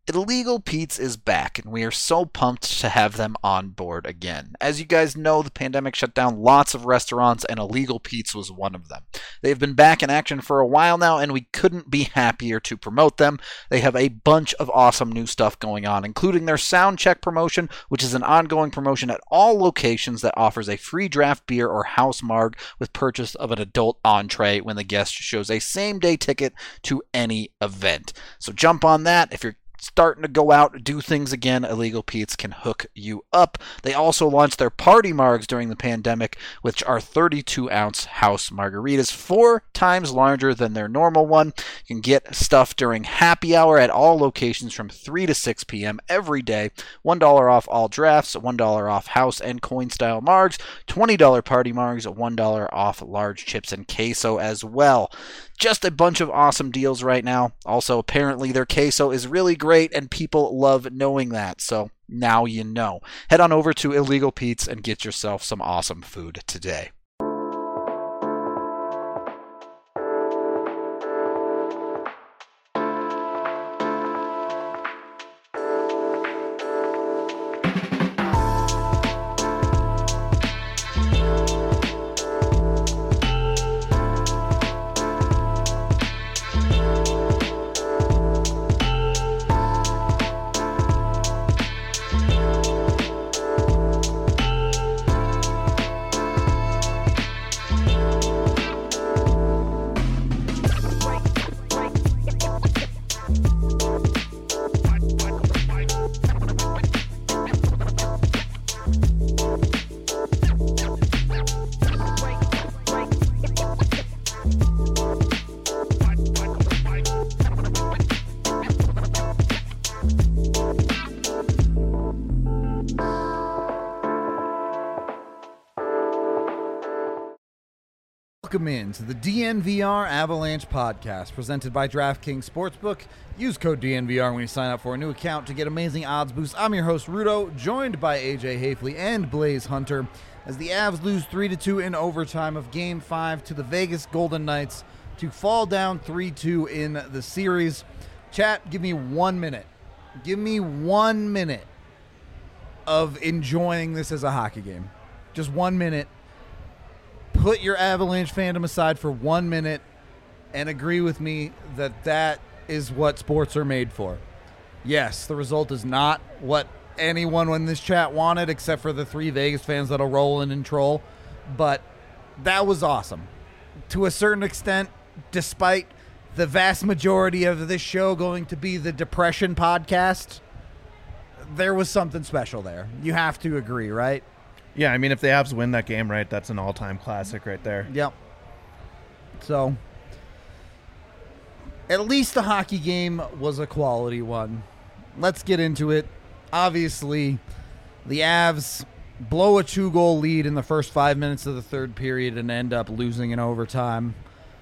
Illegal Pete's is back, and we are so pumped to have them on board again. As you guys know, the pandemic shut down lots of restaurants, and Illegal Pete's was one of them. They've been back in action for a while now, and we couldn't be happier to promote them. They have a bunch of awesome new stuff going on, including their Sound Check promotion, which is an ongoing promotion at all locations that offers a free draft beer or house marg with purchase of an adult entree when the guest shows a same-day ticket to any event. So jump on that. If you're starting to go out, do things again, Illegal Pete's can hook you up. They also launched their party margs during the pandemic, which are 32-ounce house margaritas, 4 times larger than their normal one. You can get stuff during happy hour at all locations from 3 to 6 p.m. every day. $1 off all drafts, $1 off house and coin-style margs, $20 party margs, $1 off large chips and queso as well. Just a bunch of awesome deals right now. Also, apparently their queso is really great, and people love knowing that. So now you know. Head on over to Illegal Pete's and get yourself some awesome food today. Welcome in to the DNVR Avalanche podcast presented by DraftKings Sportsbook. Use code DNVR when you sign up for a new account to get amazing odds boosts. I'm your host, Rudo, joined by AJ Hafley and Blaze Hunter as the Avs lose 3-2 in overtime of Game 5 to the Vegas Golden Knights to fall down 3-2 in the series. Chat, give me 1 minute. Give me 1 minute of enjoying this as a hockey game. Just 1 minute. Put your Avalanche fandom aside for 1 minute and agree with me that that is what sports are made for. Yes, the result is not what anyone in this chat wanted, except for the 3 Vegas fans that'll roll in and troll, but that was awesome. To a certain extent, despite the vast majority of this show going to be the depression podcast, there was something special there. You have to agree, right? Yeah, I mean, if the Avs win that game, right, that's an all-time classic right there. Yep. So, at least the hockey game was a quality one. Let's get into it. Obviously, the Avs blow a 2-goal lead in the first 5 minutes of the third period and end up losing in overtime.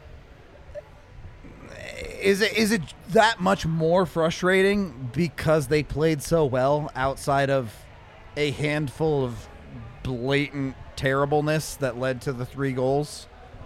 Is it that much more frustrating because they played so well outside of a handful of blatant terribleness that led to the 3 goals?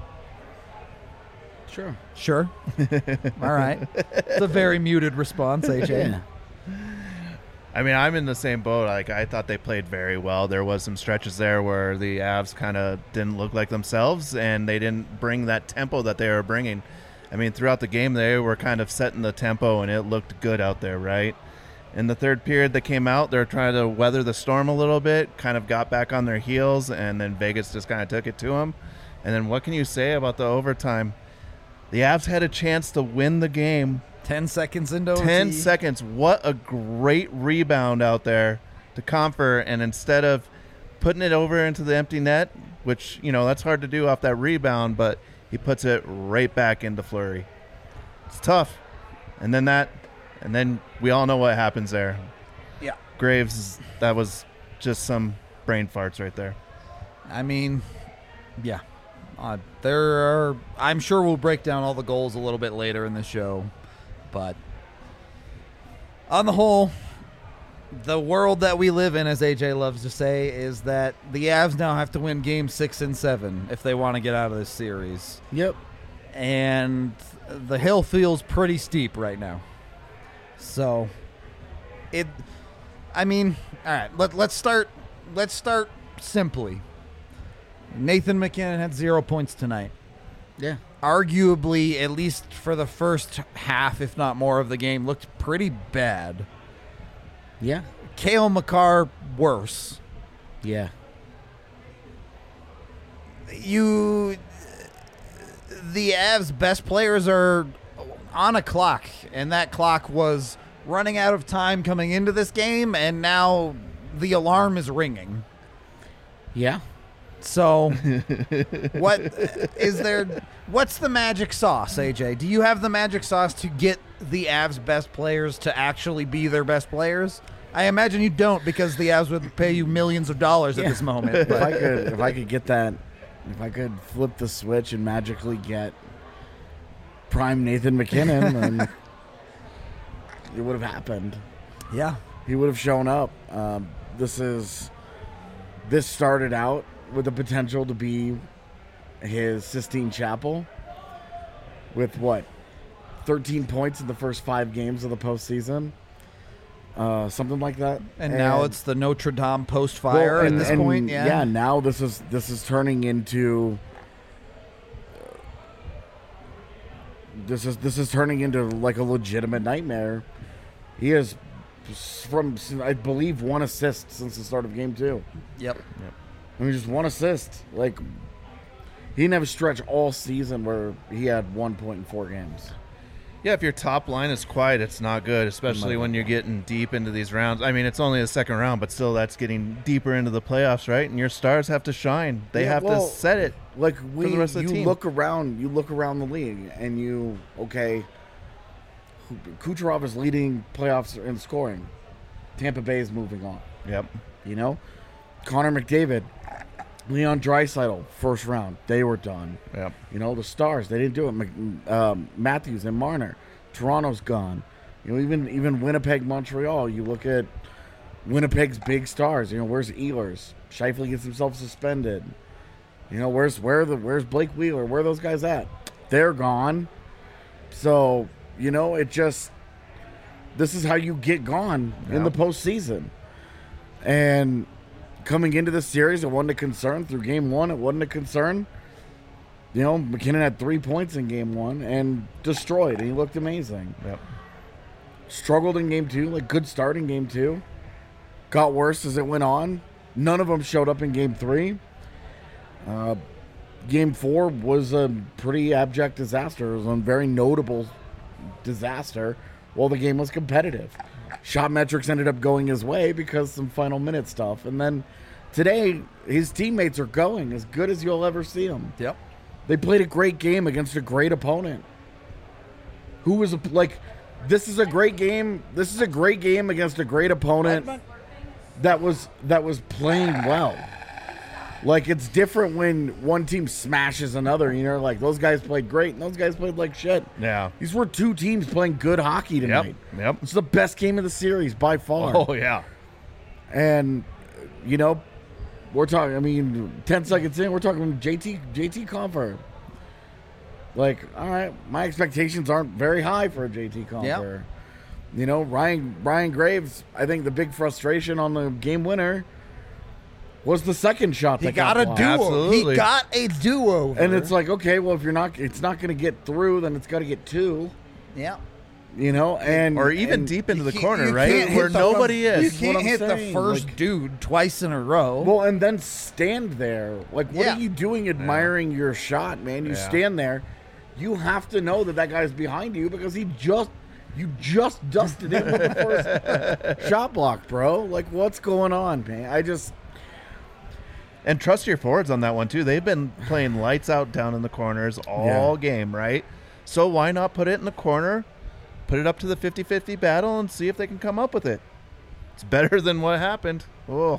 Sure. All right. It's a very muted response, AJ. Yeah. I mean, I'm in the same boat. Like, I thought they played very well. There was some stretches there where the Avs kind of didn't look like themselves, and they didn't bring that tempo that they were bringing. I mean, throughout the game, they were kind of setting the tempo, and it looked good out there, right? In the third period, they came out. They were trying to weather the storm a little bit, kind of got back on their heels, and then Vegas just kind of took it to them. And then what can you say about the overtime? The Avs had a chance to win the game. 10 seconds into OT. 10 seconds. What a great rebound out there to Compher. And instead of putting it over into the empty net, which, you know, that's hard to do off that rebound, but he puts it right back into Fleury. It's tough. And then we all know what happens there. Yeah. Graves, that was just some brain farts right there. I mean, yeah. I'm sure we'll break down all the goals a little bit later in the show. But on the whole, the world that we live in, as AJ loves to say, is that the Avs now have to win games 6 and 7 if they want to get out of this series. Yep. And the hill feels pretty steep right now. So I mean, all right. Let's start simply. Nathan McKinnon had 0 points tonight. Yeah. Arguably, at least for the first half, if not more, of the game, looked pretty bad. Yeah. Cale Makar, worse. Yeah. The Avs' best players are on a clock, and that clock was running out of time coming into this game, and now the alarm is ringing. Yeah. So, what's the magic sauce, AJ? Do you have the magic sauce to get the Avs' best players to actually be their best players? I imagine you don't, because the Avs would pay you millions of dollars at this moment. If But I could get that, if I could flip the switch and magically get prime Nathan McKinnon, then it would have happened. yeah, He would have shown up. This started out with the potential to be his Sistine Chapel with 13 points in the first 5 games of the postseason, something like that. and now it's the Notre Dame post-fire at this point. Yeah, now this is turning into this is turning into like a legitimate nightmare. He has, I believe, 1 assist since the start of game 2. Yep. I mean, just 1 assist. Like, he didn't have a stretch all season where he had 1 point in 4 games. Yeah, if your top line is quiet, it's not good, especially when you're getting deep into these rounds. I mean, it's only the second round, but still that's getting deeper into the playoffs, right? And your stars have to shine. They have to set it. Like, for the rest of the team. look around the league, and Kucherov is leading playoffs in scoring. Tampa Bay is moving on. Yep. You know? Connor McDavid, Leon Draisaitl, first round. They were done. Yep. You know, the Stars, they didn't do it. Matthews and Marner. Toronto's gone. You know, even Winnipeg, Montreal, you look at Winnipeg's big stars. You know, where's Ehlers? Scheifele gets himself suspended. You know, where's Blake Wheeler? Where are those guys at? They're gone. So, you know, this is how you get gone in the postseason. And coming into this series, it wasn't a concern. Through game 1, it wasn't a concern. You know, McKinnon had 3 points in game 1 and destroyed, and he looked amazing. Yep. Struggled in game 2, like good start in game 2. Got worse as it went on. None of them showed up in game 3. Game 4 was a pretty abject disaster. It was a very notable disaster while the game was competitive. Shot metrics ended up going his way because some final minute stuff. And then today, his teammates are going as good as you'll ever see them. Yep. They played a great game against a great opponent. This is a great game. This is a great game against a great opponent that was playing well. Like, it's different when one team smashes another. You know, like, those guys played great and those guys played like shit. Yeah. These were 2 teams playing good hockey tonight. Yep. It's the best game of the series by far. Oh, yeah. And, you know, we're talking, 10 seconds in, we're talking JT Compher. Like, all right, my expectations aren't very high for a JT Compher. Yep. You know, Ryan Graves, I think the big frustration on the game winner was the second shot that got a blocked. duo. Absolutely. He got a do-over. And it's like, okay, well, if it's not going to get through, then it's got to get 2. yeah. You know, Or even deep into the corner, you right? can't hit Where the- nobody You is. can't what I'm hit the saying, first like- dude twice in a row. Well, and then stand there. Like, what Yeah. are you doing admiring your shot, man? You Yeah. stand there. You have to know that guy's behind you because you just dusted him with the first shot block, bro. Like, what's going on, man? And trust your forwards on that one, too. They've been playing lights out down in the corners all game, right? So why not put it in the corner, put it up to the 50-50 battle, and see if they can come up with it? It's better than what happened. Oh,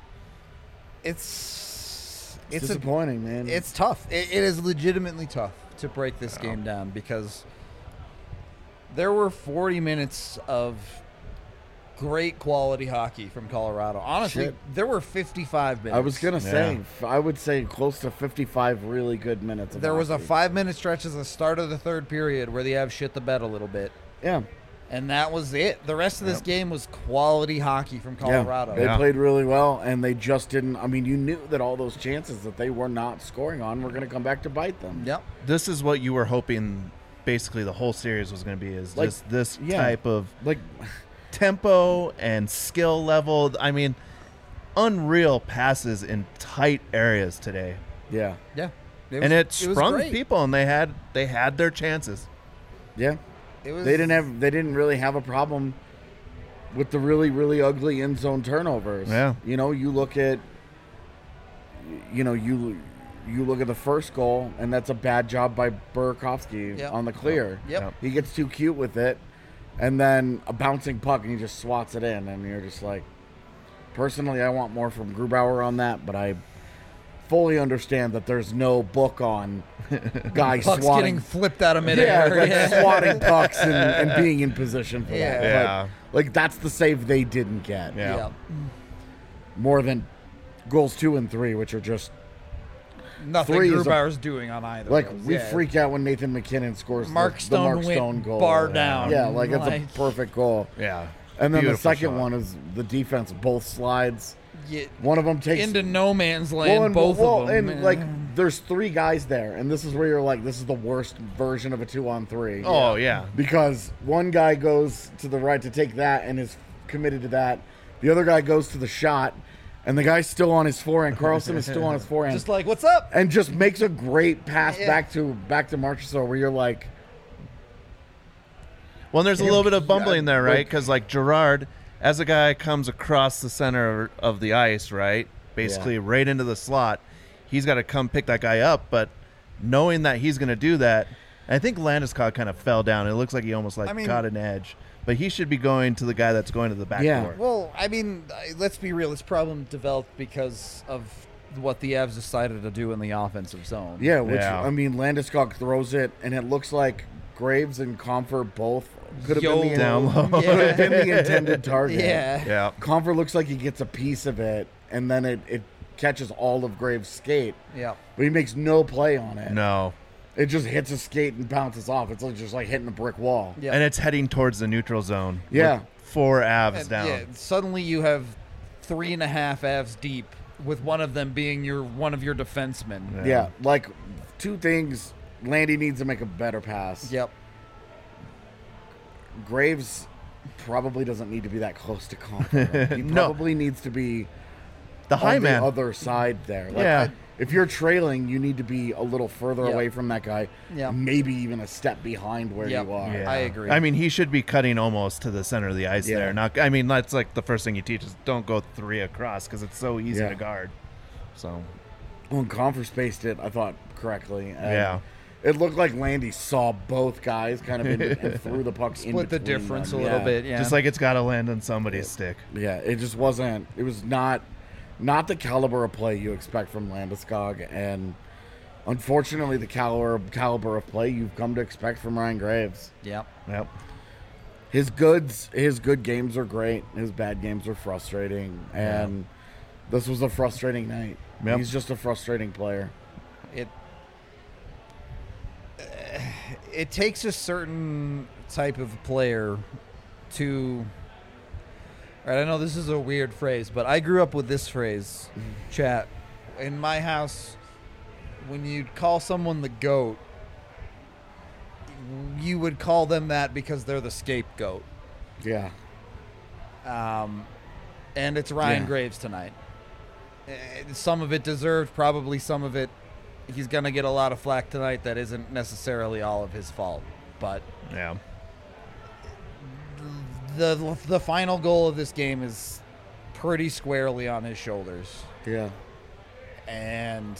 It's disappointing, man. It's tough. It is legitimately tough to break this game down because there were 40 minutes of great quality hockey from Colorado. Honestly, Shit. there were 55 minutes. I was going to say, I would say close to 55 really good minutes. There was a hockey. 5-minute stretch at the start of the third period where the Avs shit the bed a little bit. Yeah. And that was it. The rest of this game was quality hockey from Colorado. They played really well, and they just didn't. I mean, you knew that all those chances that they were not scoring on were going to come back to bite them. Yep. This is what you were hoping basically the whole series was going to be, is Like, just this yeah. type of Like, tempo and skill level. I mean, unreal passes in tight areas today. yeah, Yeah. And it was sprung great. people, and they had their chances. yeah. It was, They didn't really have a problem with the really, really ugly end zone turnovers. Yeah. You know, you look at the first goal, and that's a bad job by Burakovsky Yep. on the clear. Yep. He gets too cute with it, and then a bouncing puck, and he just swats it in, and you're just like, personally, I want more from Grubauer on that, but I fully understand that there's no book on guys Puck's swatting. getting flipped out of Yeah, midair. like swatting pucks and being in position for Yeah. that. Yeah. But, like, that's the save they didn't get. Yeah. Yeah. More than goals 2 and 3, which are just Nothing Three is a- Grubauer's doing on either. like, of those. we Yeah. freak out when Nathan McKinnon scores Mark the Stone Mark went Stone goal. bar down. Yeah, like it's a Like- perfect goal. Yeah. And then the Beautiful second shot. one is the defense, both slides. Yeah, One of them takes into no man's land, and, both of them. and like there's 3 guys there, and this is where you're like, this is the worst version of a 2-on-3. Oh, yeah. Because one guy goes to the right to take that and is committed to that. The other guy goes to the shot, and the guy's still on his forehand. Carlson is still on his forehand, just like, what's up? and just makes a great pass Yeah. back to Marchessault, where you're like, Well, and there's a little bit of bumbling there, right? like- Because, like, Gerard, as a guy comes across the center of the ice, right? Basically right into the slot, he's got to come pick that guy up. But knowing that he's going to do that, I think Landeskog kind of fell down. It looks like he almost, like, I mean- caught an edge. But he should be going to the guy that's going to the back Yeah. door. Well, I mean, let's be real. This problem developed because of what the Avs decided to do in the offensive zone. yeah, which Yeah. I mean, Landeskog throws it, and it looks like Graves and Comfort both could have been, Down low. could have been the intended target. Yeah. Yeah. Comfort looks like he gets a piece of it, and then it catches all of Graves' skate, Yeah. but he makes no play on it. No. It just hits his skate and bounces off. It's like just like hitting a brick wall. Yeah. And it's heading towards the neutral zone. Yeah. with 4 Avs And, down. yeah, suddenly you have 3.5 Avs deep, with one of them being one of your defensemen. Yeah, like 2 things. Landy needs to make a better pass. Yep. Graves probably doesn't need to be that close to Comfort. He No. probably needs to be The high on man. the other side there. Like, Yeah. if you're trailing, you need to be a little further Yeah. away from that guy. Yeah. Maybe even a step behind where Yep. you are. Yeah. I agree. I mean, he should be cutting almost to the center of the ice Yeah. there. Not. I mean, that's like the first thing you teach is don't go 3 across because it's so easy Yeah. to guard. So When Comfort spaced it, I thought correctly. And Yeah. It looked like Landy saw both guys kind of and threw the puck in Split the between difference them. a little Yeah. bit. Yeah. just like it's got to land on somebody's stick. Yeah, it just wasn't. It was not the caliber of play you expect from Landeskog, and unfortunately, the caliber of play you've come to expect from Ryan Graves. Yep. Yep. His good games are great. His bad games are frustrating, and this was a frustrating night. Yep. He's just a frustrating player. It takes a certain type of player to. All right, I know this is a weird phrase, but I grew up with this phrase, chat. In my house, when you'd call someone the GOAT, you would call them that because they're the scapegoat. Yeah, And it's Ryan Yeah. Graves tonight. Some of it deserved, probably some of it he's going to get a lot of flack tonight that isn't necessarily all of his fault. But Yeah. the final goal of this game is pretty squarely on his shoulders. yeah. And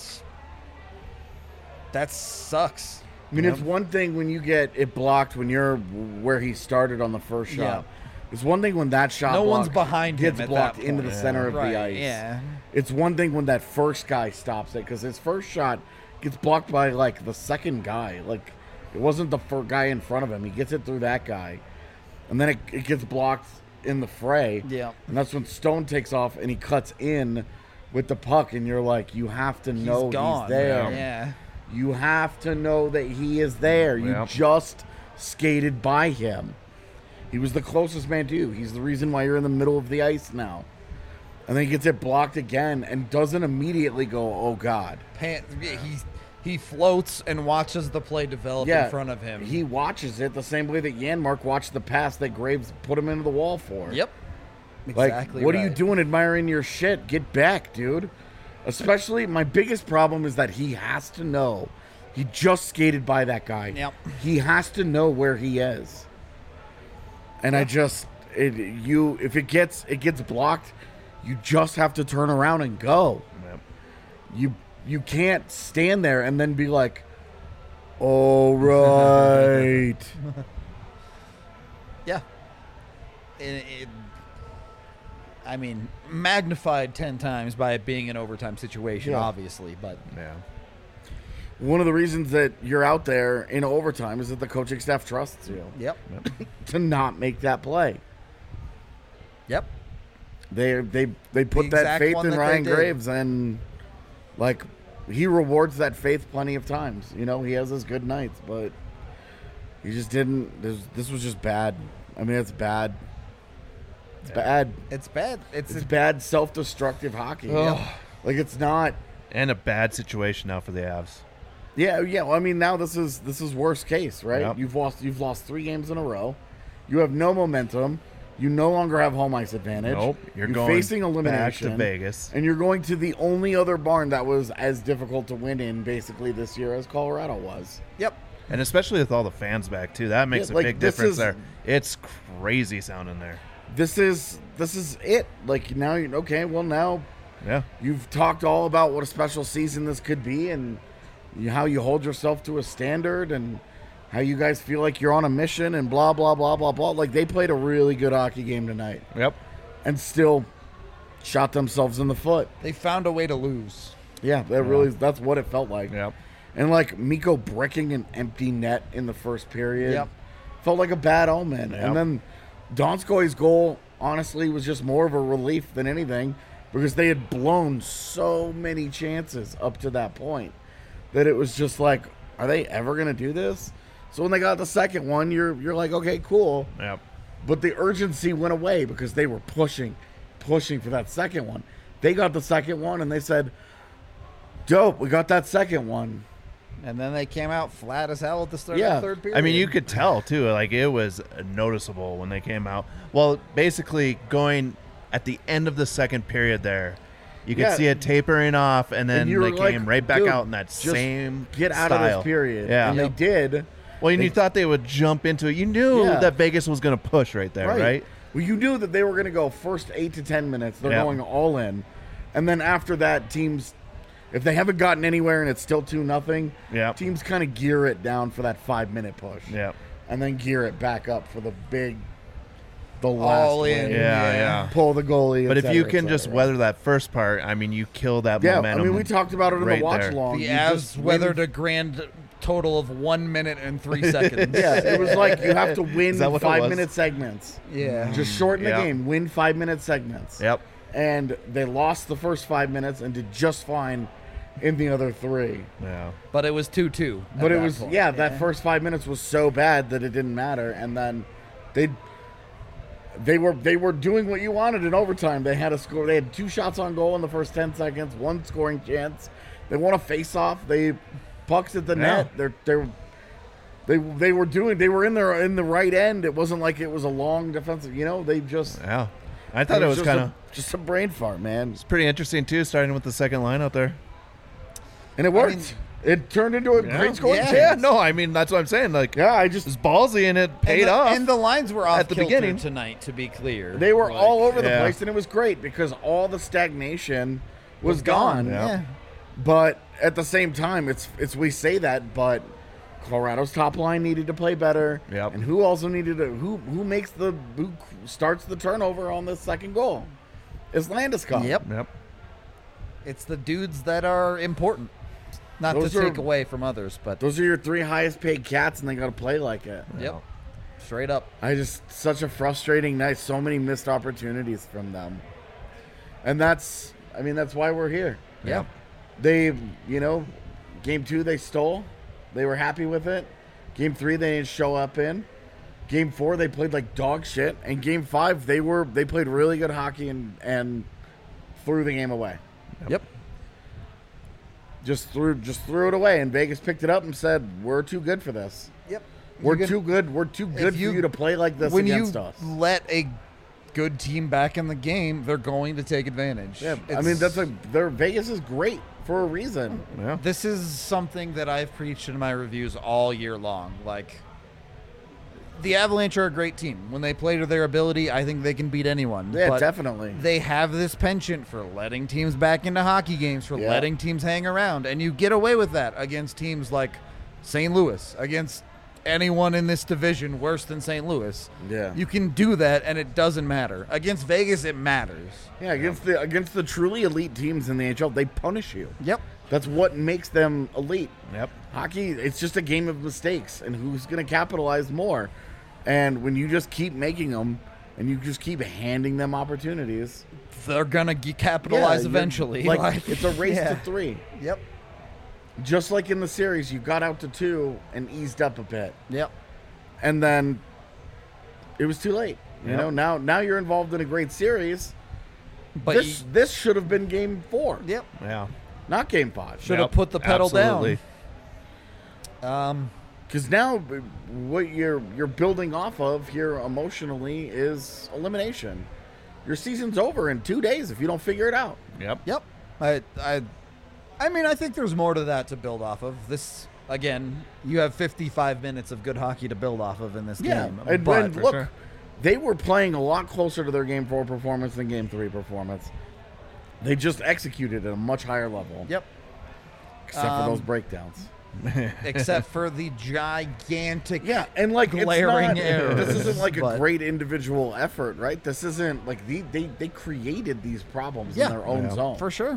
that sucks. I mean, it's one thing when you get it blocked when you're where he started on the first shot. Yeah. It's one thing when that shot No one's block behind him gets at blocked that into point. the center of Right, the ice. yeah. It's one thing when that first guy stops it, because his first shot gets blocked by like the second guy. Like it wasn't the first guy in front of him. He gets it through that guy, and then it gets blocked in the fray. Yeah. And that's when Stone takes off and he cuts in with the puck, and you're like, you have to know He's gone. he's there. Yeah. You have to know that he is there. You Yep. just skated by him. He was the closest man to you. He's the reason why you're in the middle of the ice now. And then he gets it blocked again and doesn't immediately go, oh, God. He floats and watches the play develop in front of him. He watches it the same way that Janmark watched the pass that Graves put him into the wall for. Yep. Like, Exactly what right. are you doing admiring your shit? Get back, dude. Especially, my biggest problem is that he has to know. He just skated by that guy. Yep. He has to know where he is. And if it gets blocked, you just have to turn around and go. Yep. You can't stand there and then be like, all right. Yeah. I mean, magnified 10 times by it being an overtime situation, Yeah. obviously, but Yeah. One of the reasons that you're out there in overtime is that the coaching staff trusts you yep. to not make that play. Yep. They put that exact faith one in that Ryan they did. Graves, and like he rewards that faith plenty of times. You know, he has his good nights, but he just didn't. This was just bad. I mean, it's bad. It's bad. It's bad. It's bad self-destructive hockey. Ugh. Like it's not. And a bad situation now for the Avs. Yeah. Well, I mean, now this is worst case, right? Yep. You've lost 3 games in a row. You have no momentum. You no longer have home ice advantage. Nope. You're going facing elimination back to Vegas. and you're going to the only other barn that was as difficult to win in basically this year as Colorado was. Yep. And especially with all the fans back, too. That makes Yeah, a like, big this difference is- there. It's crazy sounding there. This is it. Like now you're okay. Well, now Yeah. you've talked all about what a special season this could be and how you hold yourself to a standard and how you guys feel like you're on a mission and blah, blah, blah, blah, blah. Like they played a really good hockey game tonight Yep. and still shot themselves in the foot. They found a way to lose. Yeah, that's what it felt like. Yep. And like Mikko breaking an empty net in the first period Yep. felt like a bad omen. Yep. And then Donskoi's goal, honestly, was just more of a relief than anything because they had blown so many chances up to that point that it was just like, are they ever going to do this? So when they got the second one, you're like, okay, cool. Yep. But the urgency went away because they were pushing for that second one. They got the second one and they said, dope, we got that second one. And then they came out flat as hell at the start Yeah. of the third period. I mean, you could tell, too. Like, it was noticeable when they came out. Well, basically, going at the end of the second period there, you could Yeah. see it tapering off, and then you were they like, came right back dude, out in that just same Get out style. of this period. Yeah. And they did. Well, and you They- thought they would jump into it. You knew Yeah. that Vegas was going to push right there, right? Well, you knew that they were going to go first 8 to 10 minutes. They're Yeah. going all in. And then after that, teams, if they haven't gotten anywhere and it's still 2-0, Yeah. teams kind of gear it down for that 5-minute push. Yeah. And then gear it back up for the last All in. wave. Yeah. Pull the goalie. But et if you cetera, can et just cetera. weather that first part, I mean, you kill that Yeah, I momentum. mean, we talked about it in right the watch there. along. the You Avs just weathered win- a grand total of 1 minute and 3 seconds. Yeah, it was like you have to win Is that what it was? 5-minute segments. Yeah. Just shorten Yeah. the game. Win 5-minute segments. Yep. And they lost the first 5 minutes and did just fine in the other 3. Yeah. But it was 2-2. at But it that was, point. that first 5 minutes was so bad that it didn't matter. And then they were doing what you wanted in overtime. They had a score. They had 2 shots on goal in the first 10 seconds, 1 scoring chance. They won a face-off. They pucks at the net. They were in the right end. It wasn't like it was a long defensive. They just. Yeah. I thought it was just kind of just a brain fart, man. pretty interesting, too, starting with the second line out there. And it worked. mean- it turned into a great scoring Yeah. chance. Yeah, no, I mean, that's what I'm saying. Like, Yeah, I it just was ballsy and it paid and the, off. And the lines were off at the kilter beginning. tonight, to be clear. they were Like, all over the Yeah. place, and it was great because all the stagnation was gone. Yeah. Yeah. But at the same time, it's we say that, but Colorado's top line needed to play better. Yep. And who also needed to who starts the turnover on this second goal? Is Landeskog. Yep. Yep. It's the dudes that are important. Not Those to are- take away from others, but Those are your 3 highest paid cats, and they got to play like it. yep. Straight up. Such a frustrating night. So many missed opportunities from them. And that's why we're here. Yeah. They, game 2 they stole. They were happy with it. Game 3 they didn't show up in. Game 4 they played like dog shit, and Game 5 they played really good hockey and threw the game away. Yep. Just threw it away, and Vegas picked it up and said, "We're too good for this. Yep. We're too good. We're too good for you to play like this against us." When you let a good team back in the game, they're going to take advantage. Yeah, I mean Vegas is great for a reason. Yeah. This is something that I've preached in my reviews all year long. Like, the Avalanche are a great team. When they play to their ability, I think they can beat anyone. Yeah, But definitely. they have this penchant for letting teams back into hockey games, for Yeah. letting teams hang around, and you get away with that against teams like St. Louis, against anyone in this division worse than St. Louis. Yeah. You can do that, and it doesn't matter. Against Vegas, it matters. Yeah, against the truly elite teams in the NHL, they punish you. Yep. That's what makes them elite. Yep. Hockey, it's just a game of mistakes, and who's going to capitalize more. And when you just keep making them, and you just keep handing them opportunities, They're going to capitalize you're- eventually. Like, it's a race yeah. to 3. Yep. Just like in the series, you got out to 2 and eased up a bit, Yep. and then it was too late. You Yep. know, now you're involved in a great series. But This should have been Game 4, yep. Yeah. not Game 5. Should have put the pedal Absolutely. down. Because now what you're building off of here emotionally is elimination. Your season's over in 2 days if you don't figure it out. Yep. Yep. I mean, I think there's more to that to build off of. This, again, you have 55 minutes of good hockey to build off of in this game. And, But and look, sure. they were playing a lot closer to their Game 4 performance than Game 3 performance. They just executed at a much higher level. Yep. Except for those breakdowns. Except for the gigantic. Yeah, and like Glaring it's not, errors, this isn't like a but- great individual effort, right? This isn't like they created these problems Yeah. in their own Yeah. zone. For sure.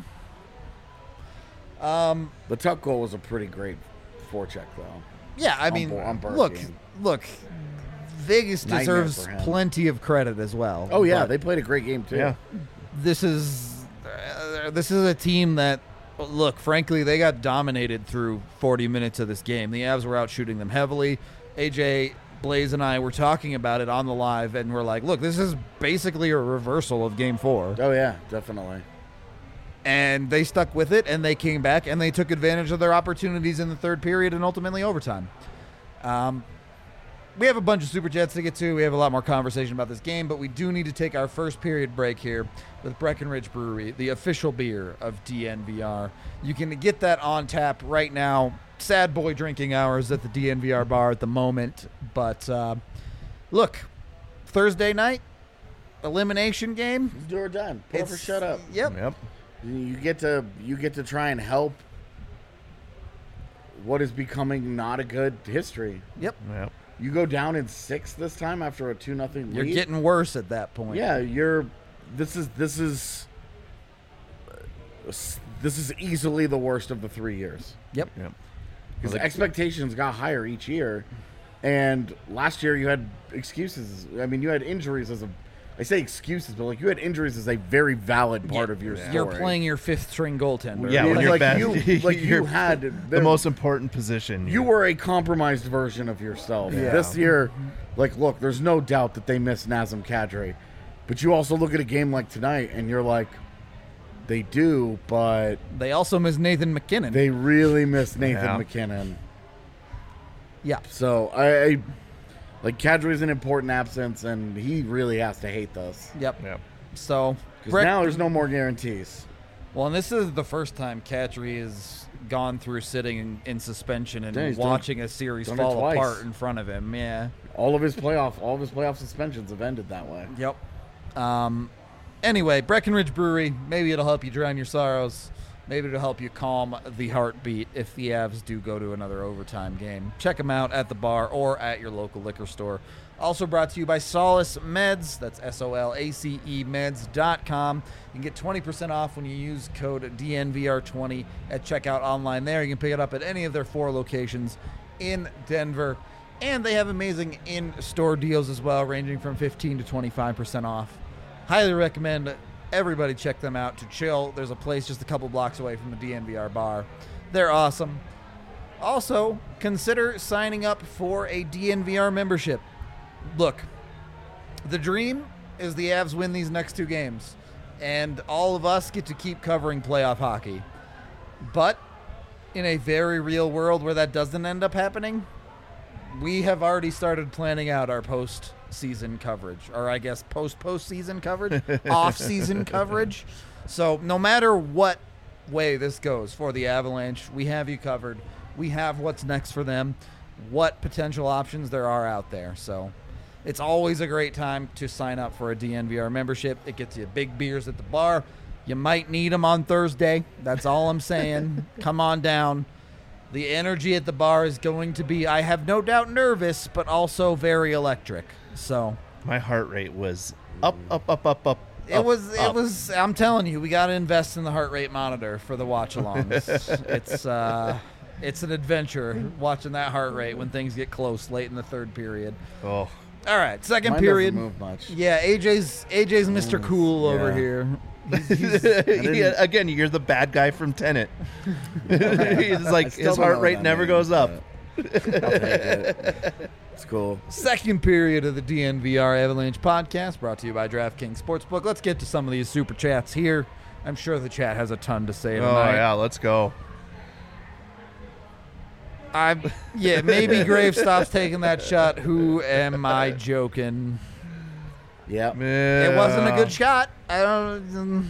The Tuck goal was a pretty great forecheck, though. Yeah, I On mean, Burke look, game. Vegas Nightmare deserves for him. plenty of credit as well. Oh yeah, but they played a great game too. Yeah. this is a team that, look, frankly, they got dominated through 40 minutes of this game. The Avs were out shooting them heavily. AJ, Blaze, and I were talking about it on the live, and we're like, look, this is basically a reversal of Game 4. Oh yeah, definitely. And they stuck with it, and they came back, and they took advantage of their opportunities in the third period and ultimately overtime. We have a bunch of Super Chats to get to. We have a lot more conversation about this game, but we do need to take our first period break here with Breckenridge Brewery, the official beer of DNVR. You can get that on tap right now. Sad boy drinking hours at the DNVR bar at the moment. But look, Thursday night, elimination game. It's do or done. Put up or shut up. Yep. Yep. You get to try and help what is becoming not a good history. Yep. Yep. You go down in 6 this time after a 2-0 lead. You're getting worse at that point. Yeah, this is easily the worst of the 3 years. Yep. Yep. Because expectations got higher each year, and last year you had excuses. I mean, you had injuries as I say excuses, but like you had injuries as a very valid part of your story. You're playing your fifth string goaltender. Yeah, when like, you're like bad, you had the most important position. You were a compromised version of yourself. Yeah. This year, like, look, there's no doubt that they miss Nazem Kadri, but you also look at a game like tonight, and you're like, they do, but They also miss Nathan McKinnon. they really miss Nathan Yeah. McKinnon. yeah. So I like Kadri's an important absence, and he really has to hate this Yep. Yep. So, because now there's no more guarantees. well, and this is the first time Kadri has gone through sitting in suspension and Yeah, he's done- watching a series done it fall twice. apart in front of him. Yeah. All of his playoff suspensions have ended that way. Yep. Anyway, Breckenridge Brewery, maybe it'll help you drown your sorrows. Maybe it'll help you calm the heartbeat if the Avs do go to another overtime game. Check them out at the bar or at your local liquor store. Also brought to you by Solace Meds. That's SOLACE meds.com. You can get 20% off when you use code DNVR20 at checkout online there. You can pick it up at any of their 4 locations in Denver. And they have amazing in-store deals as well, ranging from 15 to 25% off. Highly recommend everybody check them out to chill. There's a place just a couple blocks away from the DNVR bar. They're awesome. Also, consider signing up for a DNVR membership. look, the dream is the Avs win these next 2 games, and all of us get to keep covering playoff hockey. But in a very real world where that doesn't end up happening, we have already started planning out our post-season coverage, or I guess post-postseason coverage, off-season coverage. So no matter what way this goes for the Avalanche, we have you covered. We have what's next for them, what potential options there are out there. So it's always a great time to sign up for a DNVR membership. It gets you big beers at the bar. You might need them on Thursday. That's all I'm saying. Come on down. The energy at the bar is going to be, I have no doubt, nervous, but also very electric. So My heart rate was up, up, up, up, up. it was. I'm telling you, we got to invest in the heart rate monitor for the watch-alongs. It's an adventure watching that heart rate when things get close late in the third period. Oh, All right, second Mine period. doesn't move much. Yeah, AJ's Mr. Cool over yeah. here. Yeah, again, you're the bad guy from Tenet. He's I like, still his don't know heart what rate that never means, goes up. but I'll take it. It's cool. Second period of the DNVR Avalanche podcast, brought to you by DraftKings Sportsbook. Let's get to some of these super chats here. I'm sure the chat has a ton to say Oh, tonight. yeah, let's go. Maybe Graves stops taking that shot. Who am I joking? Yeah. It wasn't a good shot. I don't.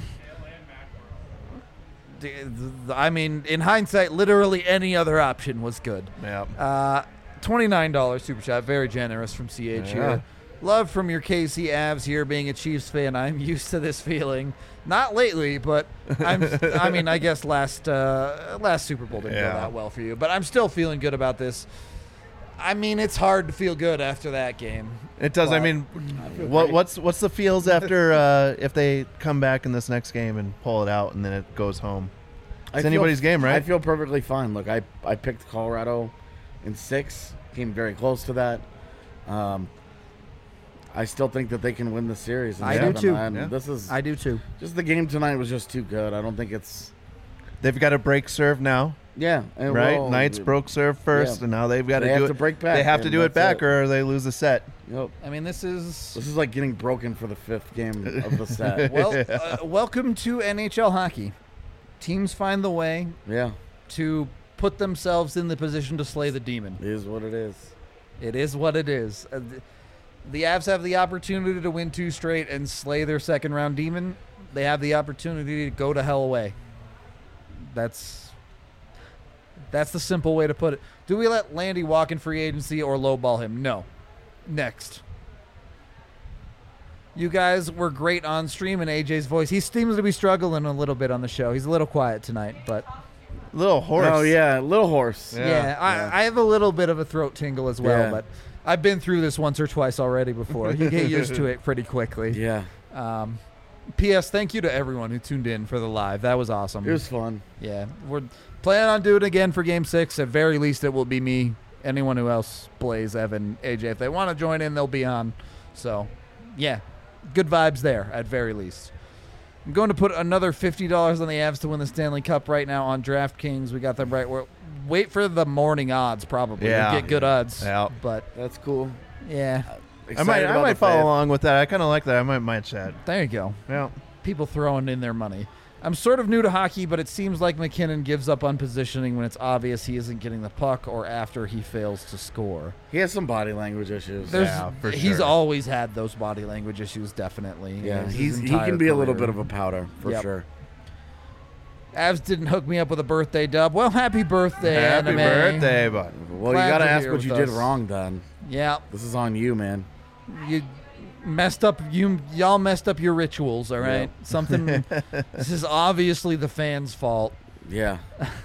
I mean, in hindsight, literally any other option was good. Yeah. $29 super chat, very generous from CH here. Love from your KC Avs here. Being a Chiefs fan, I'm used to this feeling. Not lately, but I guess last Super Bowl didn't go that well for you. But I'm still feeling good about this. I mean, it's hard to feel good after that game. It does. I But mean, feel what's the feels after if they come back in this next game and pull it out and then it goes home? It's anybody's game, right? I feel perfectly fine. Look, I picked Colorado in 6. Came very close to that. I still think that they can win the series. I do too. And this is I do too. just the game tonight was just too good. I don't think it's They've got to break serve now, and right? well, Knights broke serve first, and now they've got They to have do to it. break back, They have to and do it that's back, it. or they lose the set. Yep. I mean, this This is like getting broken for the 5th game of the set. welcome to NHL hockey. Teams find the way Yeah, to put themselves in the position to slay the demon. it is what it is. It is what it is. The Avs have the opportunity to win 2 straight and slay their second-round demon. They have the opportunity to go to hell away. That's the simple way to put it. Do we let Landy walk in free agency or lowball him? No. Next. You guys were great on stream in AJ's voice. He seems to be struggling a little bit on the show. He's a little quiet tonight, but Little horse. Oh yeah, little horse. Yeah. I have a little bit of a throat tingle as well, Yeah. but I've been through this once or twice already before. You get used to it pretty quickly. Yeah, P.S. Thank you to everyone who tuned in for the live. That was awesome. it was fun. Yeah, we're planning on doing it again for Game 6. At very least, it will be me. Anyone who else, Blaze, Evan, AJ, if they want to join in, they'll be on. So, yeah, good vibes there at very least. I'm going to put another $50 on the Avs to win the Stanley Cup right now on DraftKings. We got them right. Wait for the morning odds, probably. Yeah. We'll get good odds. Yeah. But, That's cool. yeah, I might follow along with that. I kind of like that. I might match that. there you go. Yeah. People throwing in their money. I'm sort of new to hockey, but it seems like McKinnon gives up on positioning when it's obvious he isn't getting the puck or after he fails to score. He has some body language issues. Yeah, for He's sure. always had those body language issues, definitely. Yeah, His he entire can be a little career. bit of a powder for Yep. sure. Avs didn't hook me up with a birthday dub. Well, happy birthday, Happy Anime. birthday, bud. Well, Glad you got to you're ask here what with you did us. wrong, then. Yeah, This is on you, man. you messed up. Y'all messed up your rituals. All right, something. This is obviously the fans' fault. Yeah.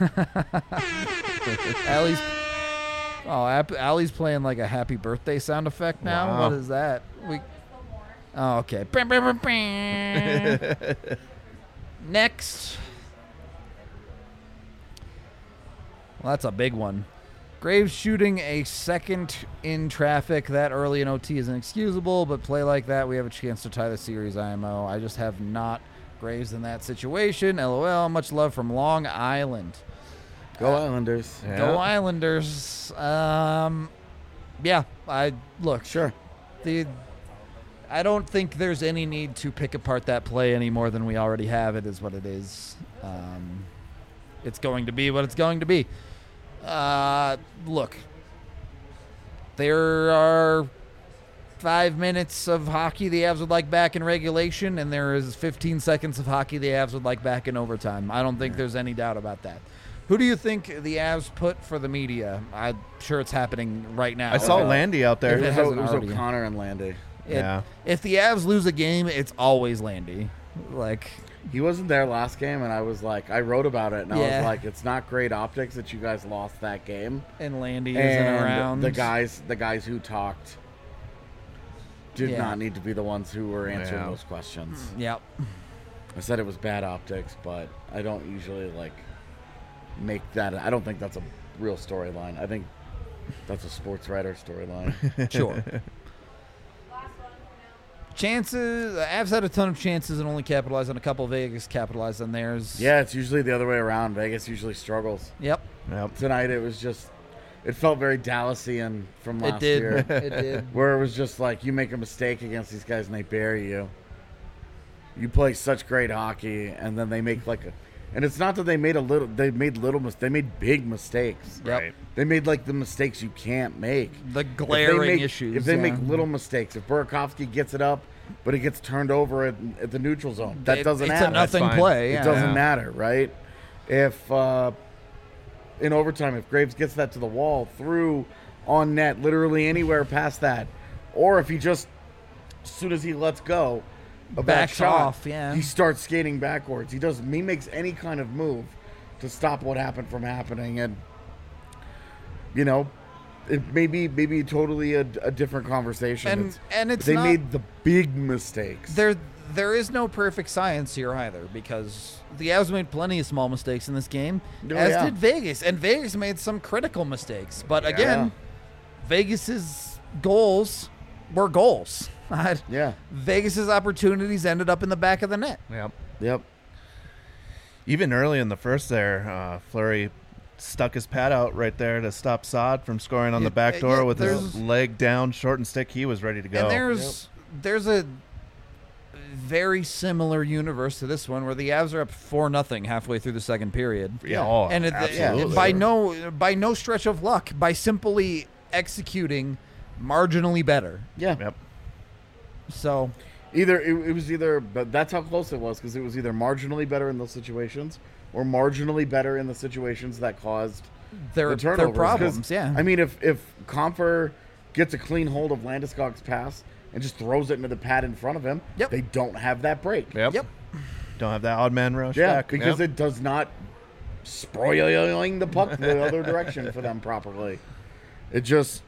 Allie's playing like a happy birthday sound effect now. Wow. What is that? Oh, okay. Next. Well, that's a big one. Graves shooting a second in traffic that early in OT is inexcusable, but play like that, we have a chance to tie the series IMO. I just have not Graves in that situation. LOL. Much love from Long Island. Go Islanders. Yeah. Go Islanders. Yeah, look. Sure. I don't think there's any need to pick apart that play any more than we already have. It is what it is. It's going to be what it's going to be. Look, there are 5 minutes of hockey the Avs would like back in regulation, and there is 15 seconds of hockey the Avs would like back in overtime. I don't think there's any doubt about that. Who do you think the Avs put for the media? I'm sure it's happening right now. I saw Landy out there. If It it hasn't was already. O'Connor and Landy. Yeah. If the Avs lose a game, it's always Landy. Like, He wasn't there last game, and I was like, I wrote about it, and I Yeah. was like, it's not great optics that you guys lost that game. and Landy isn't And around. the guys who talked did Yeah. not need to be the ones who were answering Yeah. those questions. Yep. I said it was bad optics, but I don't usually make that. I don't think that's a real storyline. I think that's a sports writer storyline. Sure. Chances. The Avs had a ton of chances and only capitalized on a couple. Vegas capitalized on theirs. Yeah, it's usually the other way around. Vegas usually struggles. Yep. Yep. Tonight it was just, it felt very Dallasian from last It did. year. It did. Where it was just like, you make a mistake against these guys and they bury you. You play such great hockey, and then they make and it's not that they made they made big mistakes. Yep. Right. They made the mistakes you can't make. The glaring issues. If they yeah. make little mistakes, if Burakovsky gets it up, but it gets turned over at the neutral zone, that doesn't it's happen. a nothing That's fine. play. Yeah. It doesn't matter, right? If in overtime, if Graves gets that to the wall, through, on net, literally anywhere past that, or if he just, as soon as he lets go of that Backs shot, off, yeah. he starts skating backwards. He makes any kind of move to stop what happened from happening, and it may be totally a different conversation. And it's they not, made the big mistakes. there is no perfect science here either, because the Avs made plenty of small mistakes in this game, Oh, as yeah. did Vegas, and Vegas made some critical mistakes. But again, Vegas's goals were goals. Yeah. Vegas's opportunities ended up in the back of the net. Yep. Yep. Even early in the first there, Fleury stuck his pad out right there to stop Saad from scoring on the back door with his leg down, short and stick. He was ready to go. And there's a very similar universe to this one where the Avs are up 4-0 halfway through the second period. yeah, oh, And absolutely. by no stretch of luck, by simply executing marginally better. Yeah. Yep. So It was either, but that's how close it was, because it was either marginally better in those situations or marginally better in the situations that caused their the turnovers. problems. 'Cause, Yeah. I mean, if Comfer gets a clean hold of Landeskog's pass and just throws it into the pad in front of him, Yep. they don't have that break. Yep. Yep. Don't have that odd man rush Yeah, back. because Yep. it does not spoiling the puck the other direction for them properly. It just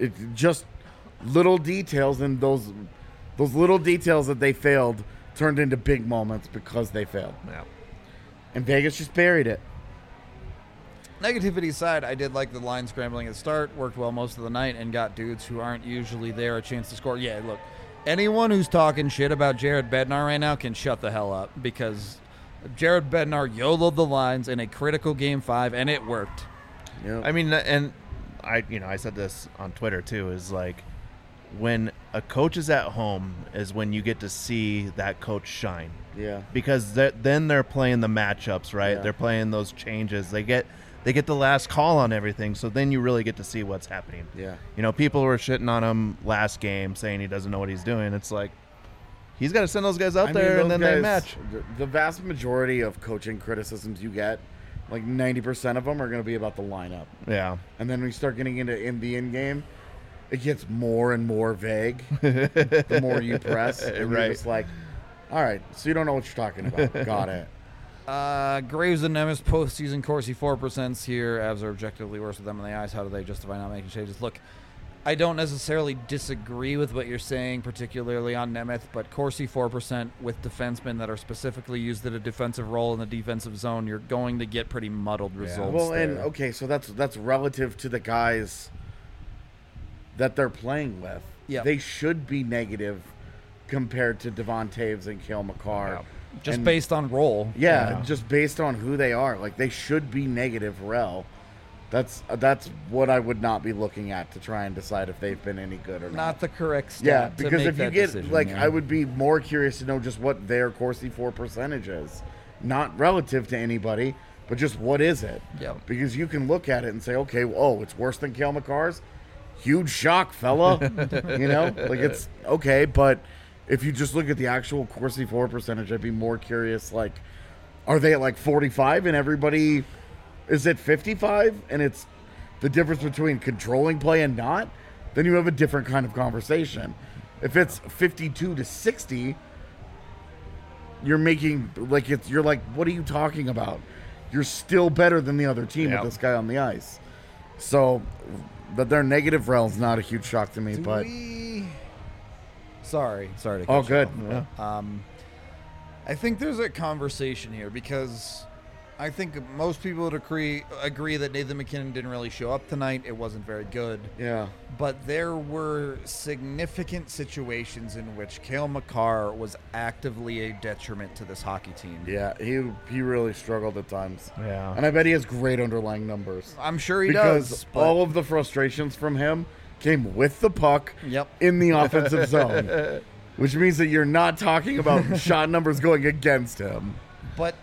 little details, and those little details that they failed turned into big moments because they failed. Yep. And Vegas just buried it. Negativity aside, I did like the line scrambling at the start, worked well most of the night, and got dudes who aren't usually there a chance to score. Yeah, look, anyone who's talking shit about Jared Bednar right now can shut the hell up, because Jared Bednar YOLO'd the lines in a critical Game 5, and it worked. Yep. I mean, and I said this on Twitter too, is like, when a coach is at home is when you get to see that coach shine, Yeah. because then they're playing the matchups, right? Yeah. They're playing those changes. They get the last call on everything, so then you really get to see what's happening. Yeah. People were shitting on him last game, saying he doesn't know what he's doing. It's like, he's got to send those guys out there, and then they match. The vast majority of coaching criticisms you get, like 90% of them, are going to be about the lineup. Yeah. And then when you start getting into the in game, it gets more and more vague the more you press. And Right. You're just like, all right, so you don't know what you're talking about. Got it. Graves and Nemeth postseason Corsi 4% here. Avs are objectively worse with them on the ice. How do they justify not making changes? Look, I don't necessarily disagree with what you're saying, particularly on Nemeth, but Corsi 4% with defensemen that are specifically used at a defensive role in the defensive zone, you're going to get pretty muddled results. Well, there. and okay, so that's relative to the guys that they're playing with. Yep. They should be negative compared to Devon Taves and Cale McCarr. Yep. just and- based on role. Yeah, just based on who they are. Like, they should be negative rel. That's what I would not be looking at to try and decide if they've been any good or not. Not the correct stat. Yeah, to because make if you that get decision, like, yeah. I would be more curious to know just what their Corsi 4 percentage is, not relative to anybody, but just what is it? Yep. Because you can look at it and say, okay, it's worse than Cale Makar's. Huge shock, fella. You know, like it's okay, but if you just look at the actual Corsi 4 percentage, I'd be more curious. Like, are they at like 45 and everybody is at 55, and it's the difference between controlling play and not? Then you have a different kind of conversation. If it's 52 to 60, you're making like you're like, what are you talking about? You're still better than the other team with this guy on the ice. So that they're negative rel's not a huge shock to me, but Sorry to oh, cut you good. off. Yeah. I think there's a conversation here because I think most people would agree that Nathan McKinnon didn't really show up tonight. It wasn't very good. Yeah. But there were significant situations in which Cale Makar was actively a detriment to this hockey team. Yeah, he really struggled at times. Yeah. And I bet he has great underlying numbers. I'm sure he Because does. But all of the frustrations from him came with the puck Yep. in the offensive zone. Which means that you're not talking about shot numbers going against him. But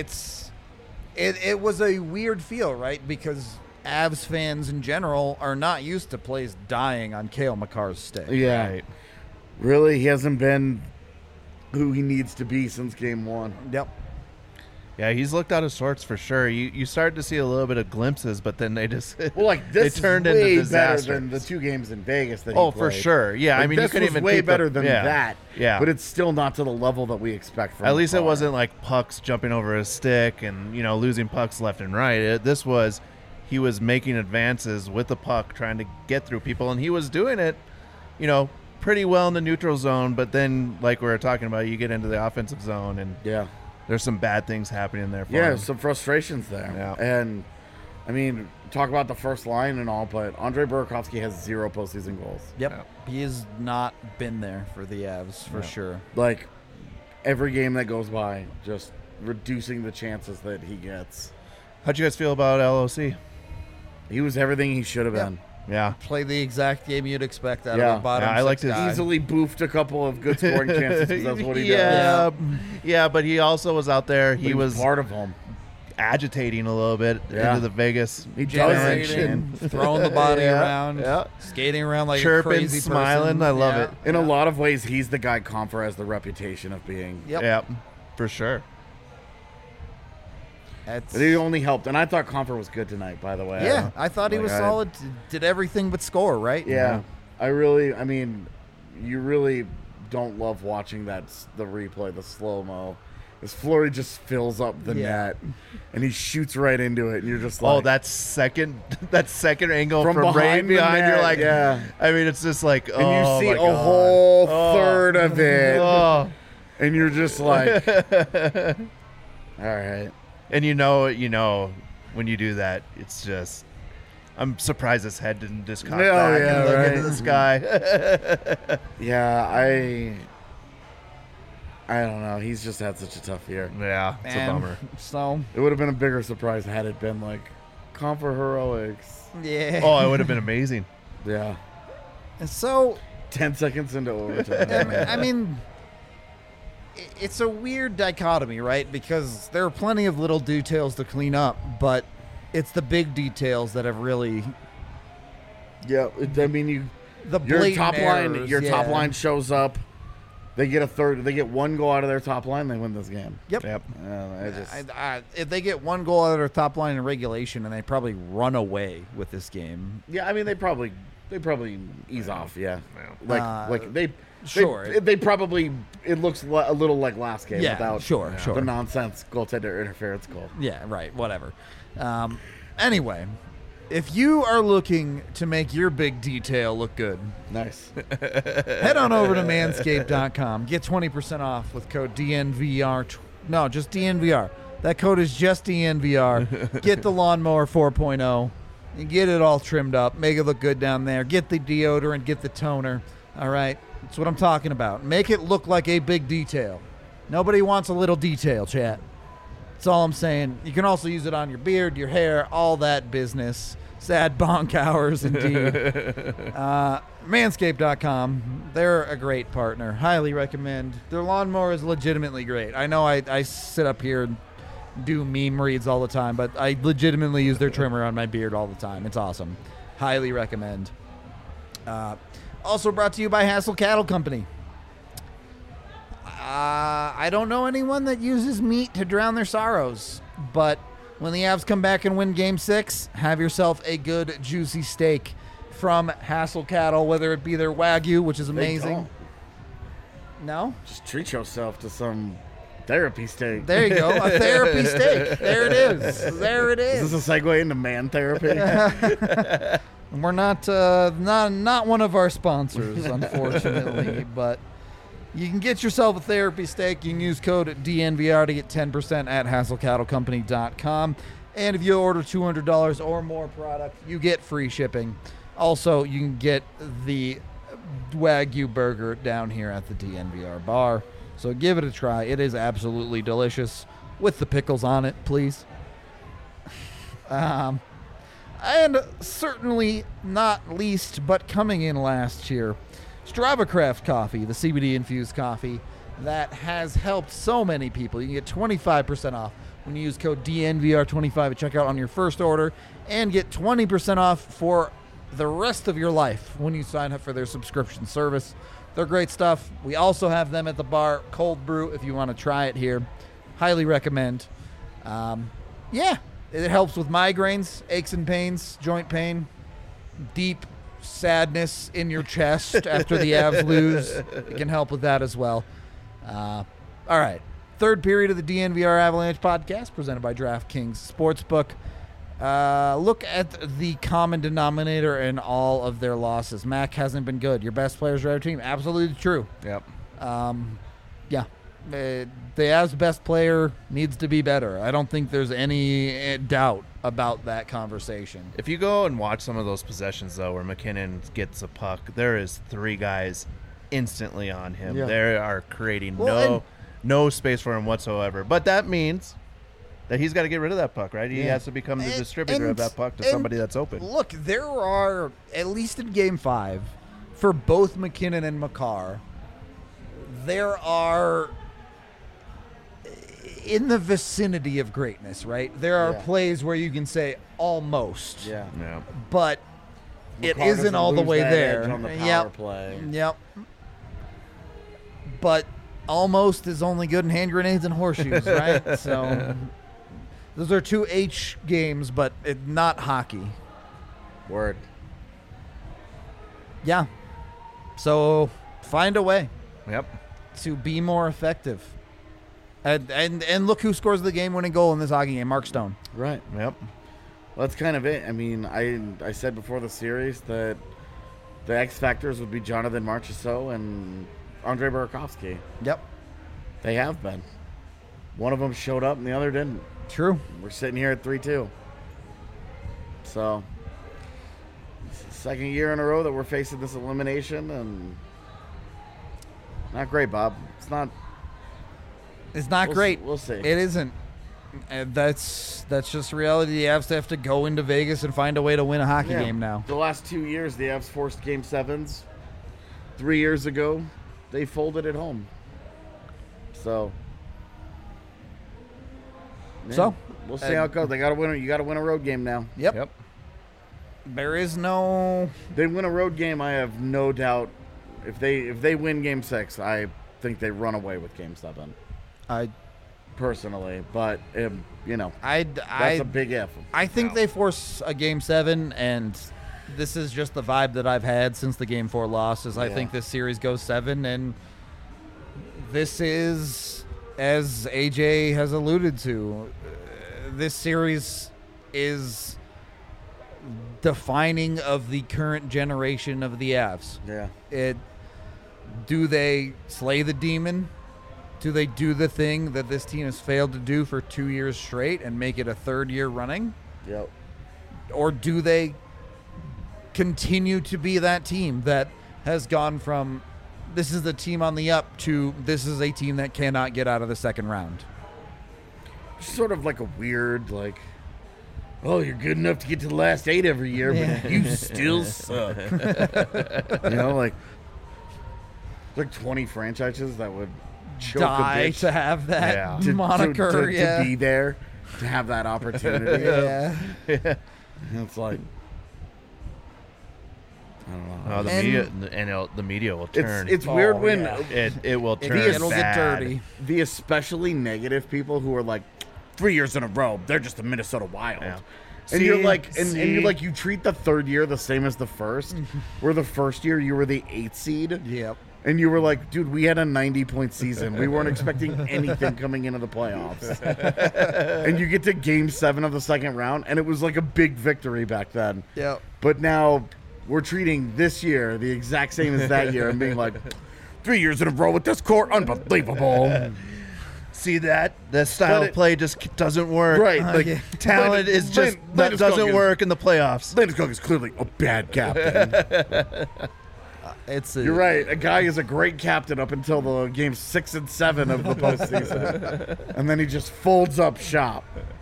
it was a weird feel, right? Because Avs fans in general are not used to plays dying on Cale Makar's stick. Yeah. Right. Really, he hasn't been who he needs to be since game one. Yep. Yeah, he's looked out of sorts for sure. You start to see a little bit of glimpses, but then they just Well, like this they turned is way into better disaster. than the 2 games in Vegas that he Oh, played. for sure. Yeah, Like, I mean, this you couldn't was even way keep better the, than yeah. that. Yeah, but it's still not to the level that we expect from. at least it Makar. wasn't like pucks jumping over his stick and losing pucks left and right. This was he was making advances with the puck, trying to get through people, and he was doing it, pretty well in the neutral zone. But then, like we were talking about, you get into the offensive zone, and Yeah. there's some bad things happening there. For Yeah, him. some frustrations there. Yeah. And, I mean, talk about the first line and all, but Andre Burakovsky has 0 postseason goals. Yep. He has not been there for the Avs for sure. Like, every game that goes by, just reducing the chances that he gets. How'd you guys feel about LOC? He was everything he should have been. Yeah, Play the exact game you'd expect out Yeah. of a bottom Yeah, I six liked his- guy. Easily boofed a couple of good scoring chances because that's what he yeah, does. yeah, but he also was out there. He But was he's part of them. agitating a little bit Yeah. into the Vegas He does Generating, throwing the body Yeah, around, yeah. skating around like a Chirping, crazy smiling. person. I love it. In a lot of ways, he's the guy Comfer has the reputation of being. Yep. Yeah, for sure. That's- But he only helped. And I thought Comfer was good tonight, by the way. yeah, I thought he Like, was I- solid. Did everything but score, right? Yeah. I mean, you really don't love watching the replay, the slow-mo. As Fleury just fills up the Yeah. net, and he shoots right into it, and you're just like... Oh, that second angle From from right behind the behind. net, You're like, yeah. I mean, it's just like, And you oh see my a God. whole Oh. third of it, Oh. and you're just like... all right. And when you do that, it's just. I'm surprised his head didn't just cock Yeah, back yeah, and look right. into the sky. Yeah, I don't know. He's just had such a tough year. Yeah, it's a Man, bummer. So, It would have been a bigger surprise had it been like Comfer heroics. yeah. Oh, it would have been amazing. Yeah. So, 10 seconds into overtime. I mean, it's a weird dichotomy, right? Because there are plenty of little details to clean up, but it's the big details that have really Yeah, I mean, the your blatant top line, errors, your top yeah. line shows up. They get one goal out of their top line, they win this game. Yep. Yep. If they get one goal out of their top line in regulation, and they probably run away with this game. Yeah, I mean, they probably ease off. Yeah, like they. Sure. They probably. It looks a little like last game Yeah, without sure. the nonsense goaltender interference goal. Yeah, right. Whatever. Anyway, if you are looking to make your big detail look good, Nice. head on over to manscaped.com. Get 20% off with code DNVR. No, just DNVR. That code is just DNVR. Get the Lawnmower 4.0 and get it all trimmed up. Make it look good down there. Get the deodorant. Get the toner. All right? That's what I'm talking about. Make it look like a big detail. Nobody wants a little detail, chat. That's all I'm saying. You can also use it on your beard, your hair, all that business. Sad bonk hours, indeed. Manscaped.com. They're a great partner. Highly recommend. Their lawnmower is legitimately great. I know I sit up here and do meme reads all the time, but I legitimately use their trimmer on my beard all the time. It's awesome. Highly recommend. Also brought to you by Hassel Cattle Company. I don't know anyone that uses meat to drown their sorrows, but when the Avs come back and win Game 6, have yourself a good, juicy steak from Hassel Cattle, whether it be their Wagyu, which is amazing. don't. No? Just treat yourself to some therapy steak. There you go. A therapy steak. There it is. There it Is is. this a segue into man therapy? We're not one of our sponsors, unfortunately, but you can get yourself a therapy steak. You can use code DNVR to get 10% at HassleCattleCompany.com. And if you order $200 or more product, you get free shipping. Also, you can get the Wagyu burger down here at the DNVR bar. So give it a try. It is absolutely delicious. With the pickles on it, please. And certainly not least, but coming in last year, Strava Craft Coffee, the CBD-infused coffee that has helped so many people. You can get 25% off when you use code DNVR25 at checkout on your first order, and get 20% off for the rest of your life when you sign up for their subscription service. They're great stuff. We also have them at the bar, cold brew, if you want to try it here. Highly recommend. Yeah, it helps with migraines, aches and pains, joint pain, deep sadness in your chest after the Avs lose. It can help with that as well. All right. Third period of the DNVR Avalanche podcast presented by DraftKings Sportsbook. Look at the common denominator in all of their losses. Mac hasn't been good. Your best players are our team. Absolutely true. Yep. Yeah. The Avs' best player needs to be better. I don't think there's any doubt about that conversation. If you go and watch some of those possessions, though, where McKinnon gets a puck, there is three guys instantly on him. Yeah. They are creating Well, no space for him whatsoever. But that means that he's got to get rid of that puck, right? He Yeah. has to become the distributor of And- that puck to and somebody that's open. Look, there are, at least in Game 5, for both McKinnon and Makar, there are in the vicinity of greatness, right? There are Yeah. plays where you can say almost, Yeah. Yeah. but it McCarr isn't doesn't all the lose way that there. edge on the power Yep. play. Yep. But almost is only good in hand grenades and horseshoes, right? So those are two H games, but not hockey. Word. Yeah. So find a way Yep. to be more effective. And look who scores the game-winning goal in this hockey game, Mark Stone. Right. Yep. Well, that's kind of it. I mean, I said before the series that the X factors would be Jonathan Marchessault and Andrei Burakovsky. Yep. They have been. One of them showed up and the other didn't. True. We're sitting here at 3-2. So, it's the second year in a row that we're facing this elimination, and not great, Bob. It's not. It's not We'll great. We'll see. It isn't. That's just reality. The Avs have to go into Vegas and find a way to win a hockey Yeah. game now. The last 2 years, the Avs forced Game 7s. 3 years ago, they folded at home. So, yeah, So, we'll see how it goes. They got to win. You got to win a road game now. Yep. Yep. There is no. They win a road game. I have no doubt. If they win Game 6, I think they run away with Game 7. I Personally, but you know, I that's a big if. I think they force a Game 7, and this is just the vibe that I've had since the Game 4 loss. Is I Yeah. think this series goes 7, and this is, as AJ has alluded to, this series is defining of the current generation of the Avs. Yeah. Do they slay the demon? Do they do the thing that this team has failed to do for 2 years straight and make it a third year running? Yep. Or do they continue to be that team that has gone from this is the team on the up to this is a team that cannot get out of the second round? sort of like a weird, like, oh, you're good enough to get to the last 8 every year, but you still suck. Like 20 franchises that would choke Die a bitch to have that Yeah. moniker. to be there, to have that opportunity. Yeah. And it's like, I don't know. Oh, the media will turn. It's weird when it will turn. It'll get bad. dirty. the especially negative people who are like 3 years in a row, they're just the Minnesota Wild. Yeah. And See? you're like, and See? you're like, you treat the third year the same as the first, where the first year you were the 8th seed, Yep. and you were like, dude, we had a 90-point season. We weren't expecting anything coming into the playoffs. And you get to Game 7 of the second round, and it was like a big victory back then. Yep. But now we're treating this year the exact same as that year and being like, 3 years in a row with this core, unbelievable. See that style But of play just doesn't work. Right. Like, yeah. Talent is just that Landis doesn't Cook work in the playoffs. Landis Cook is clearly a bad captain. It's You're right. A guy is a great captain up until the games 6 and 7 of the postseason, and then he just folds up shop.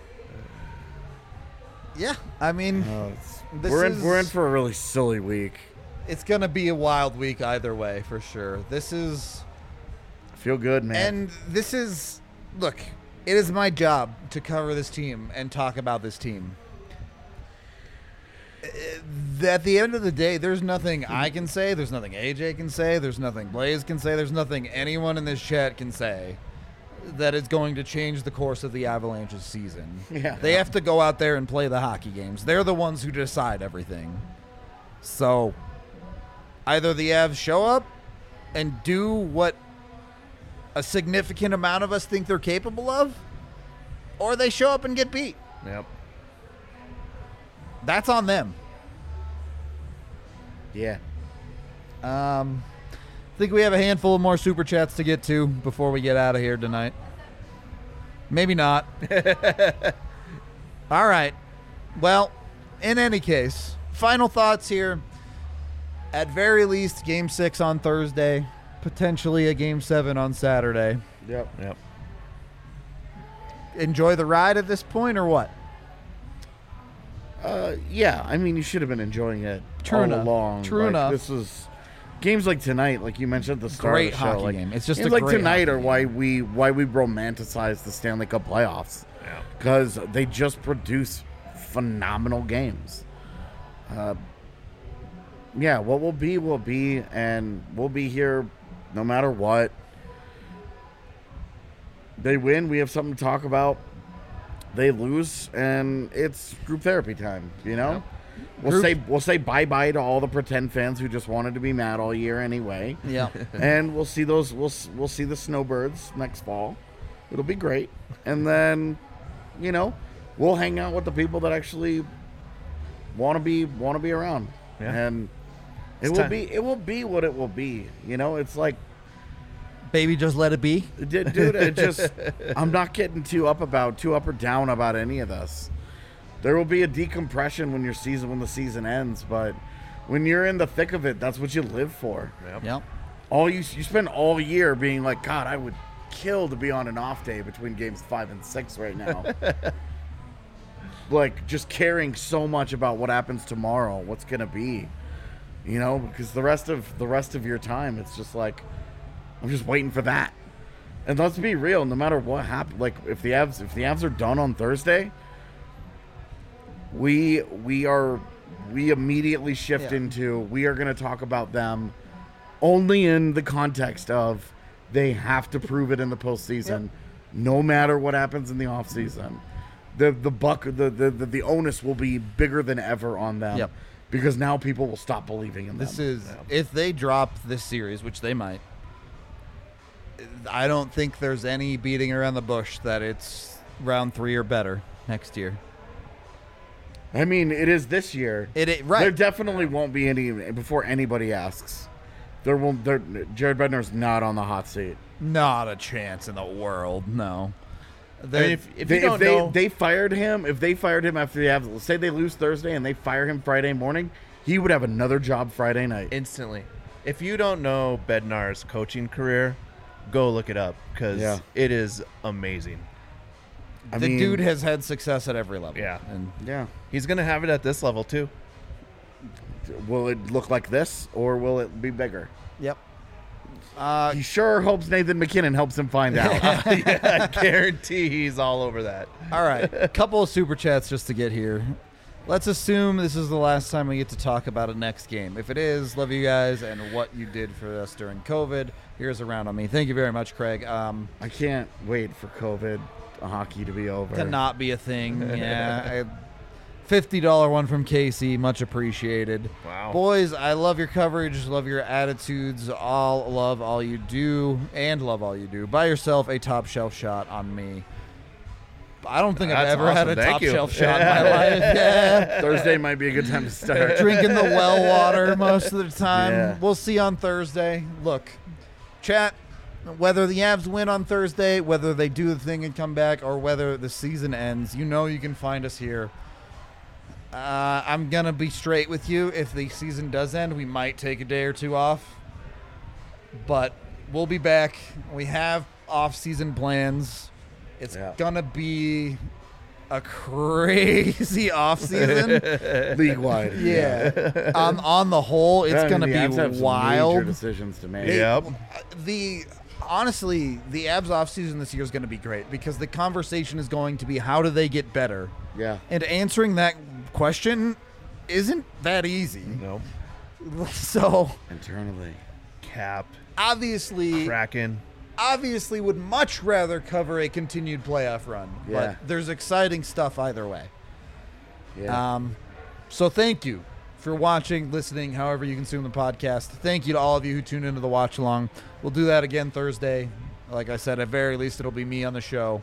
Yeah. I mean, this We're is- in for a really silly week. it's gonna be a wild week either way for sure. This is. Feel good, man. And this is, look, it is my job to cover this team and talk about this team. At the end of the day, there's nothing I can say, there's nothing AJ can say, there's nothing Blaze can say, there's nothing anyone in this chat can say that is going to change the course of the Avalanche's season. Yeah. They have to go out there and play the hockey games. They're the ones who decide everything. So, either the Avs show up and do what a significant amount of us think they're capable of, or they show up and get beat. Yep. That's on them. yeah. I think we have a handful of more super chats to get to before we get out of here tonight. Maybe not. All right. Well, in any case, final thoughts here. At very least, Game 6 on Thursday. Potentially a Game 7 on Saturday. Yep. Enjoy the ride at this point, or what? Yeah. I mean, you should have been enjoying it True all enough. along. True Like, enough. This is games like tonight, like you mentioned at the start Great of the show. hockey Like, game. It's just games a like great tonight hockey are why we romanticize the Stanley Cup playoffs. Yeah. Because they just produce phenomenal games. Yeah, what will be, and we'll be here no matter what. They win, we have something to talk about. They lose, and it's group therapy time, you know? We'll say bye-bye to all the pretend fans who just wanted to be mad all year anyway. Yeah. And we'll see we'll see the Snowbirds next fall. It'll be great. And then, we'll hang out with the people that actually want to be around. Yeah. And it will be what it will be. It's like, Baby, just let it be. dude, it just I'm not getting too up or down about any of this. There will be a decompression when the season ends, but when you're in the thick of it, that's what you live for. Yep. You spend all year being like, God, I would kill to be on an off day between games 5 and 6 right now. Like, just caring so much about what happens tomorrow, what's gonna be, because the rest of your time, it's just like, I'm just waiting for that. And let's be real, no matter what happens, like if the Avs are done on Thursday, we immediately shift into, we are going to talk about them only in the context of they have to prove it in the postseason, no matter what happens in the offseason. The onus will be bigger than ever on them, because now people will stop believing in them. This is, if they drop this series, which they might, I don't think there's any beating around the bush that it's round 3 or better next year. I mean, it is this year. Right. There definitely won't be any before anybody asks. Jared Bednar's not on the hot seat. Not a chance in the world. No. If you don't know, they fired him, if they fired him after the Avs, say they lose Thursday and they fire him Friday morning, he would have another job Friday night. instantly. If you don't know Bednar's coaching career, go look it up because it is amazing. The dude has had success at every level. Yeah. And Yeah. He's going to have it at this level, too. Will it look like this, or will it be bigger? yep. He sure hopes Nathan McKinnon helps him find out. Yeah, I guarantee he's all over that. All right. A couple of super chats just to get here. Let's assume this is the last time we get to talk about a next game. If it is, love you guys and what you did for us during COVID. Here's a round on me. Thank you very much, Craig. I can't wait for COVID hockey to be over. To not be a thing. Yeah. $50 one from Casey. Much appreciated. Wow. Boys, I love your coverage. Love your attitudes. Love all you do. And love all you do. Buy yourself a top shelf shot on me. I don't think I've That's ever had a awesome. Thank top you. shelf shot in my life. Yeah. Thursday might be a good time to start. Drinking the well water most of the time. Yeah. We'll see on Thursday. Look, chat, whether the Avs win on Thursday, whether they do the thing and come back, or whether the season ends, you know you can find us here. I'm going to be straight with you. If the season does end, we might take a day or two off. But we'll be back. We have off-season plans. It's going to be a crazy off-season. League-wide. Yeah. On the whole, it's going to The Avs have be some wild. major decisions to make. Yep. Honestly, the Avs offseason this year is going to be great because the conversation is going to be how do they get better? Yeah. And answering that question isn't that easy. No. So, Internally. Cap. obviously would much rather cover a continued playoff run. Yeah. But there's exciting stuff either way. Yeah. So thank you for watching, listening, however you consume the podcast. Thank you to all of you who tuned into the watch along. We'll do that again Thursday. Like I said, at very least it'll be me on the show.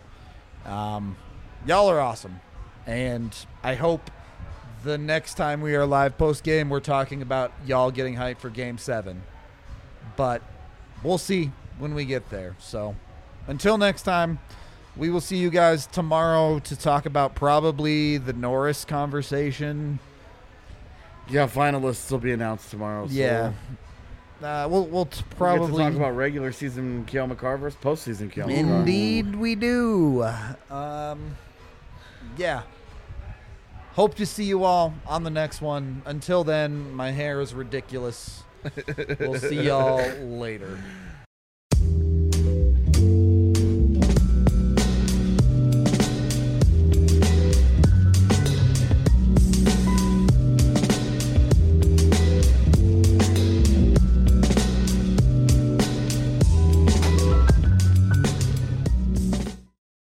Y'all are awesome. And I hope the next time we are live post-game, we're talking about y'all getting hyped for Game 7. But we'll see when we get there. So until next time, we will see you guys tomorrow to talk about probably the Norris conversation. Yeah, finalists will be announced tomorrow. So Yeah. We'll we'll get to probably talk about regular season Kale McCarr versus postseason Kale McCarr. Indeed we do. Yeah. Hope to see you all on the next one. Until then, my hair is ridiculous. We'll see y'all later.